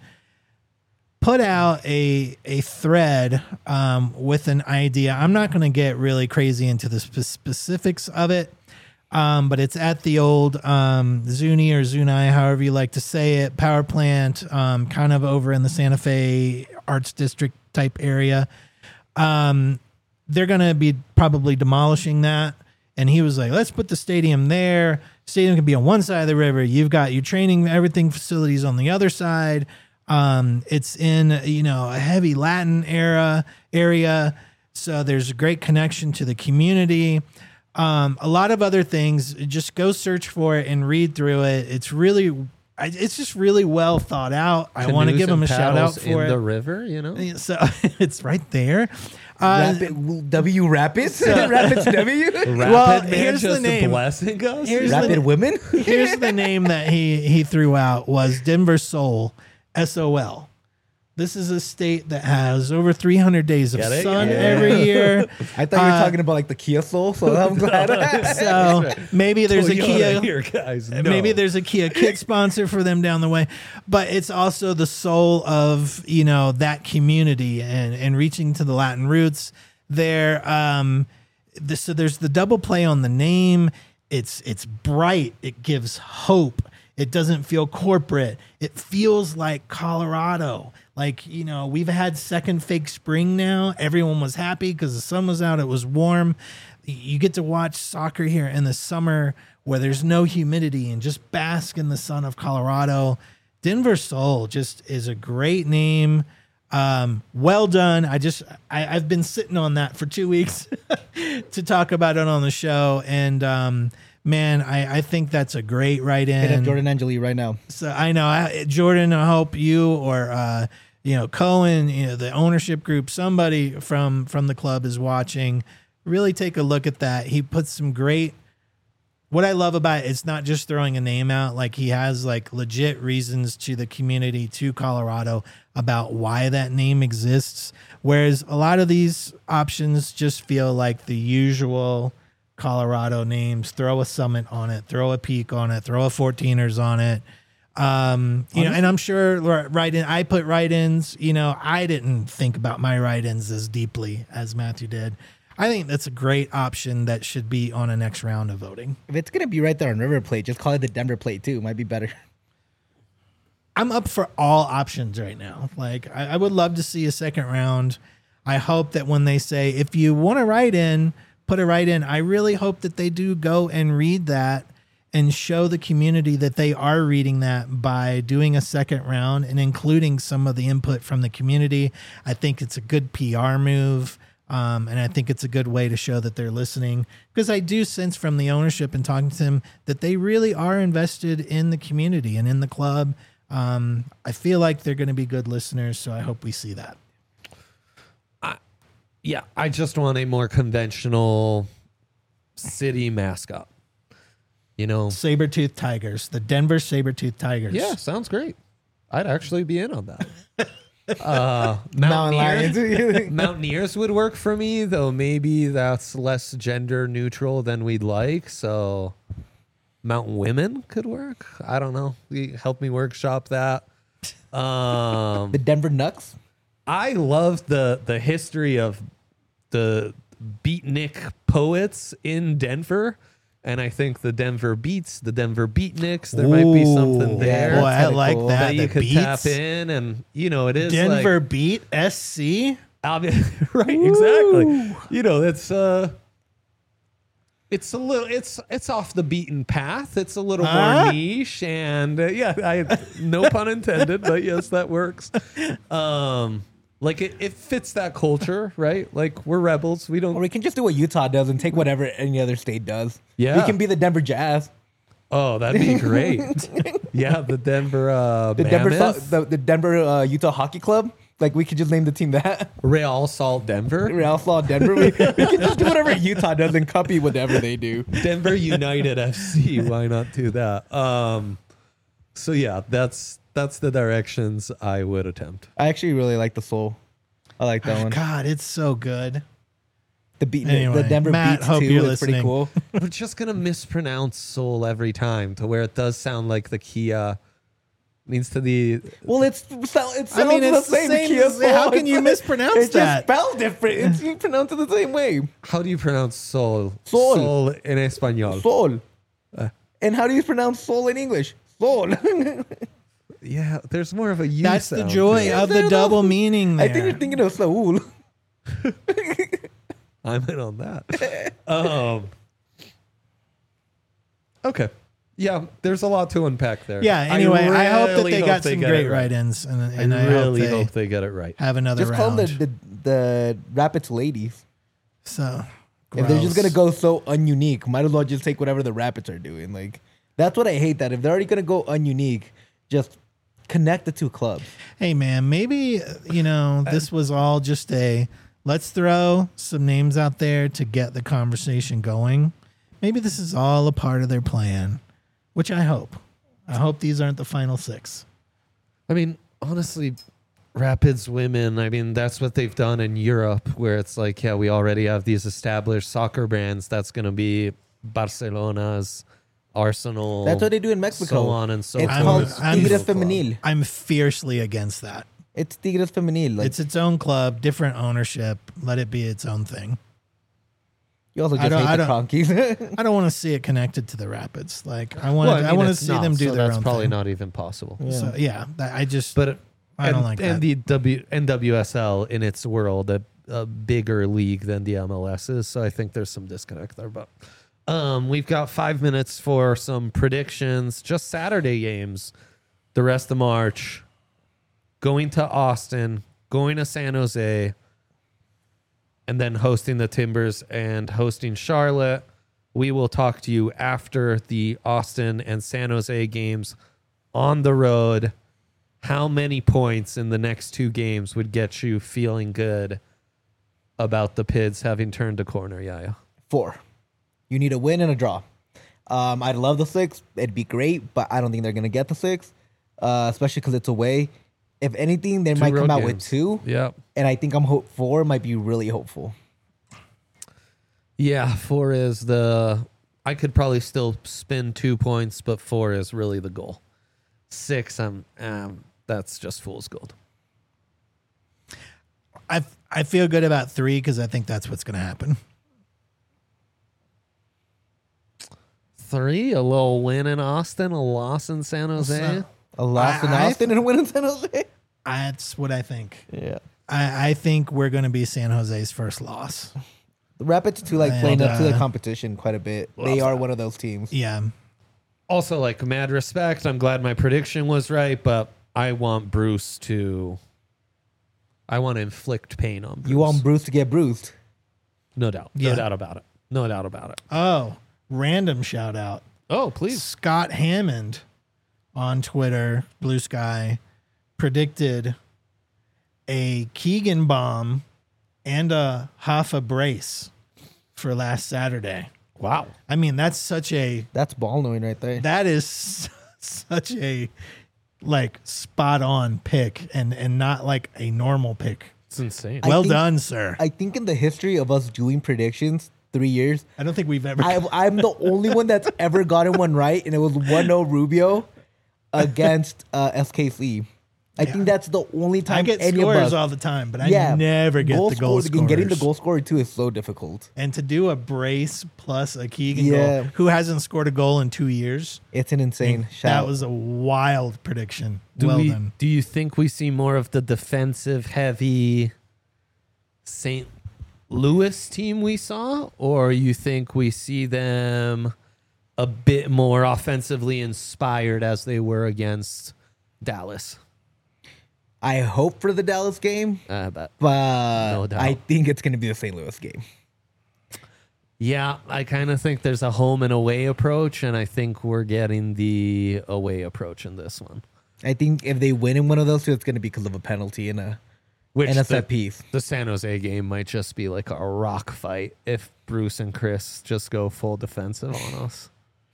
Put out a a thread um, with an idea. I'm not going to get really crazy into the spe- specifics of it. Um, but it's at the old um, Zuni or Zuni, however you like to say it, power plant, um, kind of over in the Santa Fe Arts District type area. Um, they're going to be probably demolishing that. And he was like, let's put the stadium there. Stadium can be on one side of the river. You've got your training, everything facilities on the other side. Um, it's in, you know, a heavy Latin era area. So there's a great connection to the community. Um, a lot of other things. Just go search for it and read through it. It's really, it's just really well thought out. I want to give them a shout out for in it. the river, you know. So it's right there. Uh, Rapid, W Rapids? Rapids W? Rapid Well, man here's the just name. blessing us. Here's the Rapid name. Women? Here's the name that he he threw out was Denver Sol, S O L. This is a state that has over three hundred days of Get it? sun Yeah. every year. I thought you were Uh, talking about like the Kia Soul, so I'm glad. So maybe there's a Toyota Kia. here, guys. No. Maybe there's a Kia kit sponsor for them down the way, but it's also the soul of, you know, that community and, and reaching to the Latin roots there. Um, the, so there's the double play on the name. It's, it's bright. It gives hope. It doesn't feel corporate. It feels like Colorado. Like, you know, we've had second fake spring now. Everyone was happy because the sun was out. It was warm. You get to watch soccer here in the summer where there's no humidity and just bask in the sun of Colorado. Denver Sol just is a great name. Um, well done. I just, I, I've been sitting on that for two weeks to talk about it on the show. And, um, man, I, I think that's a great write-in. Hit up Jordan Angeli right now. So I know, I, Jordan, I hope you or, uh, you know, Cohen, you know, the ownership group, somebody from, from the club is watching. Really take a look at that. He puts some great, what I love about it, it's not just throwing a name out. Like he has like legit reasons to the community, to Colorado about why that name exists. Whereas a lot of these options just feel like the usual Colorado names. Throw a Summit on it, throw a Peak on it, throw a fourteeners on it. Um, you know, and I'm sure right in, I put write-ins, you know, I didn't think about my write-ins as deeply as Matthew did. I think that's a great option that should be on a next round of voting. If it's going to be right there on River Plate, just call it the Denver Plate too. It might be better. I'm up for all options right now. Like, I, I would love to see a second round. I hope that when they say, if you want to write in, put a write in, I really hope that they do go and read that and show the community that they are reading that by doing a second round and including some of the input from the community. I think it's a good P R move. Um, and I think it's a good way to show that they're listening, because I do sense from the ownership and talking to them that they really are invested in the community and in the club. Um, I feel like they're going to be good listeners, so I hope we see that. I, yeah, I just want a more conventional city mascot. You know, Saber-toothed Tigers, the Denver Saber-toothed Tigers. yeah, sounds great. I'd actually be in on that. Uh, Mountain Mountaineers, Lions. Mountaineers would work for me, though maybe that's less gender neutral than we'd like. So Mountain Women could work. I don't know. Help me workshop that. Um, The Denver Nucks. I love the the history of the beatnik poets in Denver. And I think the Denver Beats, the Denver Beatniks, there might be something Ooh, there. Boy, I kinda like cool. that. that you The could Beats. tap in, and you know it is Denver like, Beat S C. obvi- right, exactly. You know, it's uh, it's a little, it's it's off the beaten path. It's a little Huh? more niche, and uh, yeah, I no pun intended, but yes, that works. Um, like it, it fits that culture, right? Like we're rebels. We Or don't. we can just do what Utah does and take whatever any other state does. Yeah. We can be the Denver Jazz. Oh, that'd be great. Yeah, the Denver uh, The Denver, Mammoth, so- the, the Denver uh, Utah Hockey Club. Like we could just name the team that. Real Salt Denver. Real Salt Denver. We, we can just do whatever Utah does and copy whatever they do. Denver United F C. Why not do that? Um, so yeah, that's that's the directions I would attempt. I actually really like the Soul. I like that one. God, it's so good. The beat, Anyway, the Denver Matt, Beats hope too. you're It's pretty listening. cool. We're just gonna mispronounce soul every time to where it does sound like the Kia Means to the Well, it's it sounds I mean, it's the same. the same Kia as- how Soul. can you It's- mispronounce it's that? It's just spelled different. It's, you pronounce it the same way. how do you pronounce sol? Sol. Sol in español. Sol. Uh. And how do you pronounce soul in English? Soul. Yeah, there's more of a U That's the sound joy to it. of the double meaning there. I think you're thinking of Saul. I'm in on that. um, okay. Yeah, there's a lot to unpack there. Yeah, anyway, I, hope that really they hope got they some get great it right. write-ins, and, I and I, really hope they hope they get it right. have another Just call round. them the, the, the Rapids ladies. so, If they're just gross. gonna go so ununique, might as well just take whatever the Rapids are doing. Like that's what I hate. That if they're already gonna go ununique, just connect the two clubs. Hey man, maybe uh, you know this was all just a let's throw some names out there to get the conversation going. Maybe this is all a part of their plan, which I hope. I hope these aren't the final six. I mean, honestly, Rapids women, I mean, that's what they've done in Europe, where it's like, yeah, we already have these established soccer brands. That's going to be Barcelona's, Arsenal. That's what they do in Mexico. So on and so It's forth. called I'm- Tigres Club. Femenil. I'm fiercely against that. It's Tigres Femenil. Like It's its own club, different ownership. Let it be its own thing. you also I just don't- I hate the don't- Cronkies. I don't want to see it connected to the Rapids. Like I want, Well, I, mean, want to it's see not, them do so their that's own probably thing. not even possible. So yeah, that, I just But I don't and, like and that. the W N W S L in its world a, a bigger league than the M L S is, so I think there's some disconnect there. But um, we've got five minutes for some predictions. Just Saturday games, the rest of March. Going to Austin, going to San Jose, and then hosting the Timbers and hosting Charlotte. We will talk to you after the Austin and San Jose games on the road. How many points in the next two games would get you feeling good about the Pids having turned a corner, Yaya? Four. You need a win and a draw. Um, I'd love the six. It'd be great, but I don't think they're gonna get the six, uh, especially because it's away. If anything, they Two might road come out games. with two, Yeah. and I think I'm hope four might be really hopeful. Yeah, four is the... I could probably still spin two points, but four is really the goal. Six, I'm... Um, that's just fool's gold. I I feel good about three because I think that's what's going to happen. Three, a little win in Austin, a loss in San Jose. So- A loss in I- I Austin and a win in San Jose. That's what I think. Yeah, I, I think we're going to be San Jose's first loss. the Rapids too like And, playing up to the uh, competition quite a bit. They are one of those teams. Yeah. Also, like, mad respect. I'm glad my prediction was right, but I want Bruce to... I want to inflict pain on Bruce. You want Bruce to get bruised. No doubt. Yeah. No doubt about it. No doubt about it. Oh, random shout out. Oh, please. Scott Hammond on Twitter, Blue Sky, predicted a Keegan bomb and a Hoffa brace for last Saturday. Wow. I mean, that's such a That's ball knowing right there. that is such a like spot on pick and and not like a normal pick. It's insane. I Well think- done, sir. I, I think in the history of us doing predictions, three years, don't think we've ever. I, I'm the only one that's ever gotten one right, and it was one oh Rubio against uh, S K C. I think that's the only time I get any of scores us. all the time, but I yeah, never get the goal scorer- Getting the scorers. goal scorer too is so difficult. And to do a brace plus a Keegan Yeah. goal, who hasn't scored a goal in two years, It's an insane that shout. was a wild prediction. Do well we, done. Do you think we see more of the defensive heavy Saint Louis team we saw, or you think we see them a bit more offensively inspired as they were against Dallas? I hope for the Dallas game, Uh, but but No doubt. I think it's going to be the Saint Louis game. yeah, I kind of think there's a home and away approach, and I think we're getting the away approach in this one. I think if they win in one of those two, it's going to be because of a penalty and a Which and a the, set piece. the San Jose game might just be like a rock fight if Bruce and Chris just go full defensive on us.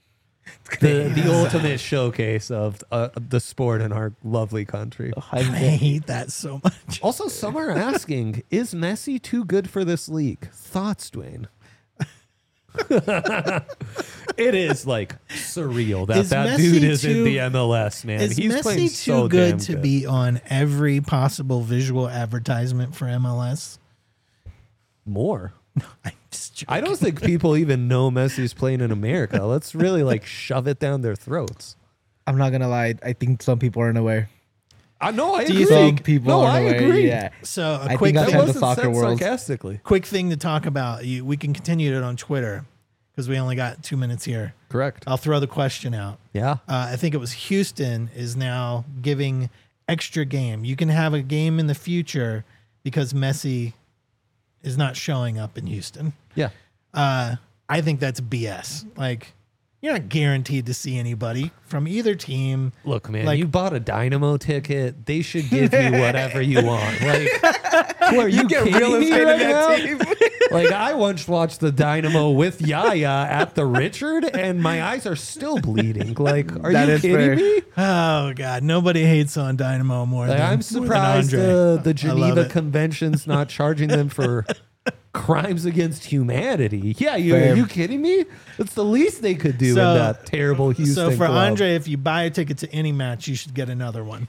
The the ultimate showcase of uh, the sport in our lovely country. I hate that so much. Also, some are asking, is Messi too good for this league? Thoughts, Dwayne? It is like surreal that Is that Messi dude is too- in the M L S, man. Is He's Messi playing too so good damn to good. be on every possible visual advertisement for M L S? More. I'm just joking. I don't think people even know Messi's playing in America. Let's really like shove it down their throats. I'm not gonna lie. I think some people aren't aware. I know. I Do you agree. Some people no, aren't I aware. agree. Yeah. So a I quick think That I've thing, had the wasn't soccer said world. sarcastically. quick thing to talk about. You, we can continue it on Twitter because we only got two minutes here. Correct. I'll throw the question out. Yeah. Uh, I think it was Houston is now giving extra game. You can have a game in the future because Messi is not showing up in Houston. Yeah. Uh, I think that's B S. Like, you're not guaranteed to see anybody from either team. Look, man, Like- you bought a Dynamo ticket. They should give you whatever you want. Like, who are you, get kidding real me estate in right that now? team. Like, I once watched the Dynamo with Yaya at the Richard, and my eyes are still bleeding. Like, are That you is kidding fair. me? Oh God, nobody hates on Dynamo more Like, than I'm more than surprised Andre. uh, the I love Geneva it. Convention's not charging them for crimes against humanity. Yeah, you, are Fair. you kidding me? It's the least they could do So- in that terrible Houston So for club. Andre, if you buy a ticket to any match, you should get another one.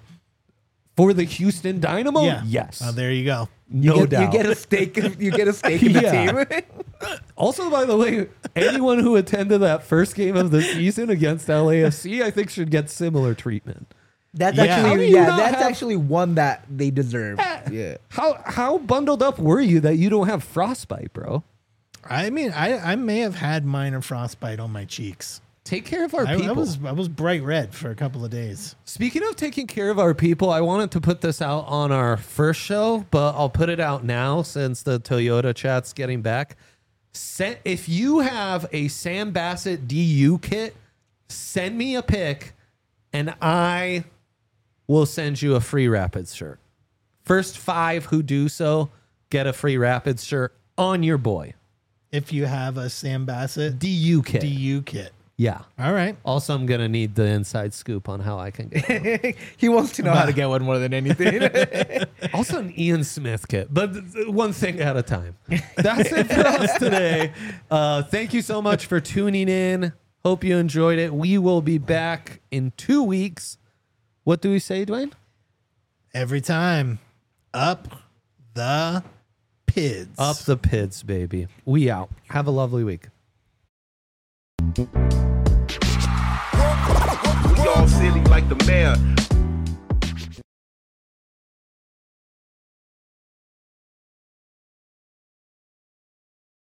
For the Houston Dynamo? yeah. Yes. Oh, there you go. no you get, doubt. You get a stake. You get a stake in the Yeah. team. Also, by the way, anyone who attended that first game of the season against L A F C, I think should get similar treatment. That's Yeah. actually How do you yeah. not That's have- actually one that they deserve. Yeah. How how bundled up were you that you don't have frostbite, bro? I mean, I, I may have had minor frostbite on my cheeks. Take care of our I, people. I was I was bright red for a couple of days. Speaking of taking care of our people, I wanted to put this out on our first show, but I'll put it out now since the Toyota chat's getting back. Send, if you have a Sam Bassett D U kit, send me a pic, and I will send you a free Rapids shirt. First five who do so get a free Rapids shirt on your boy. If you have a Sam Bassett D U kit. D U kit. Yeah. All right. Also, I'm going to need the inside scoop on how I can get one. He wants to know how to get one more than anything. Also, an Ian Smith kit, but th- th- one thing at a time. That's it for us today. Uh, thank you so much for tuning in. Hope you enjoyed it. We will be back in two weeks. What do we say, Dwayne? Every time. Up the pids. Up the Pids, baby. We out. Have a lovely week. We all silly like the mayor.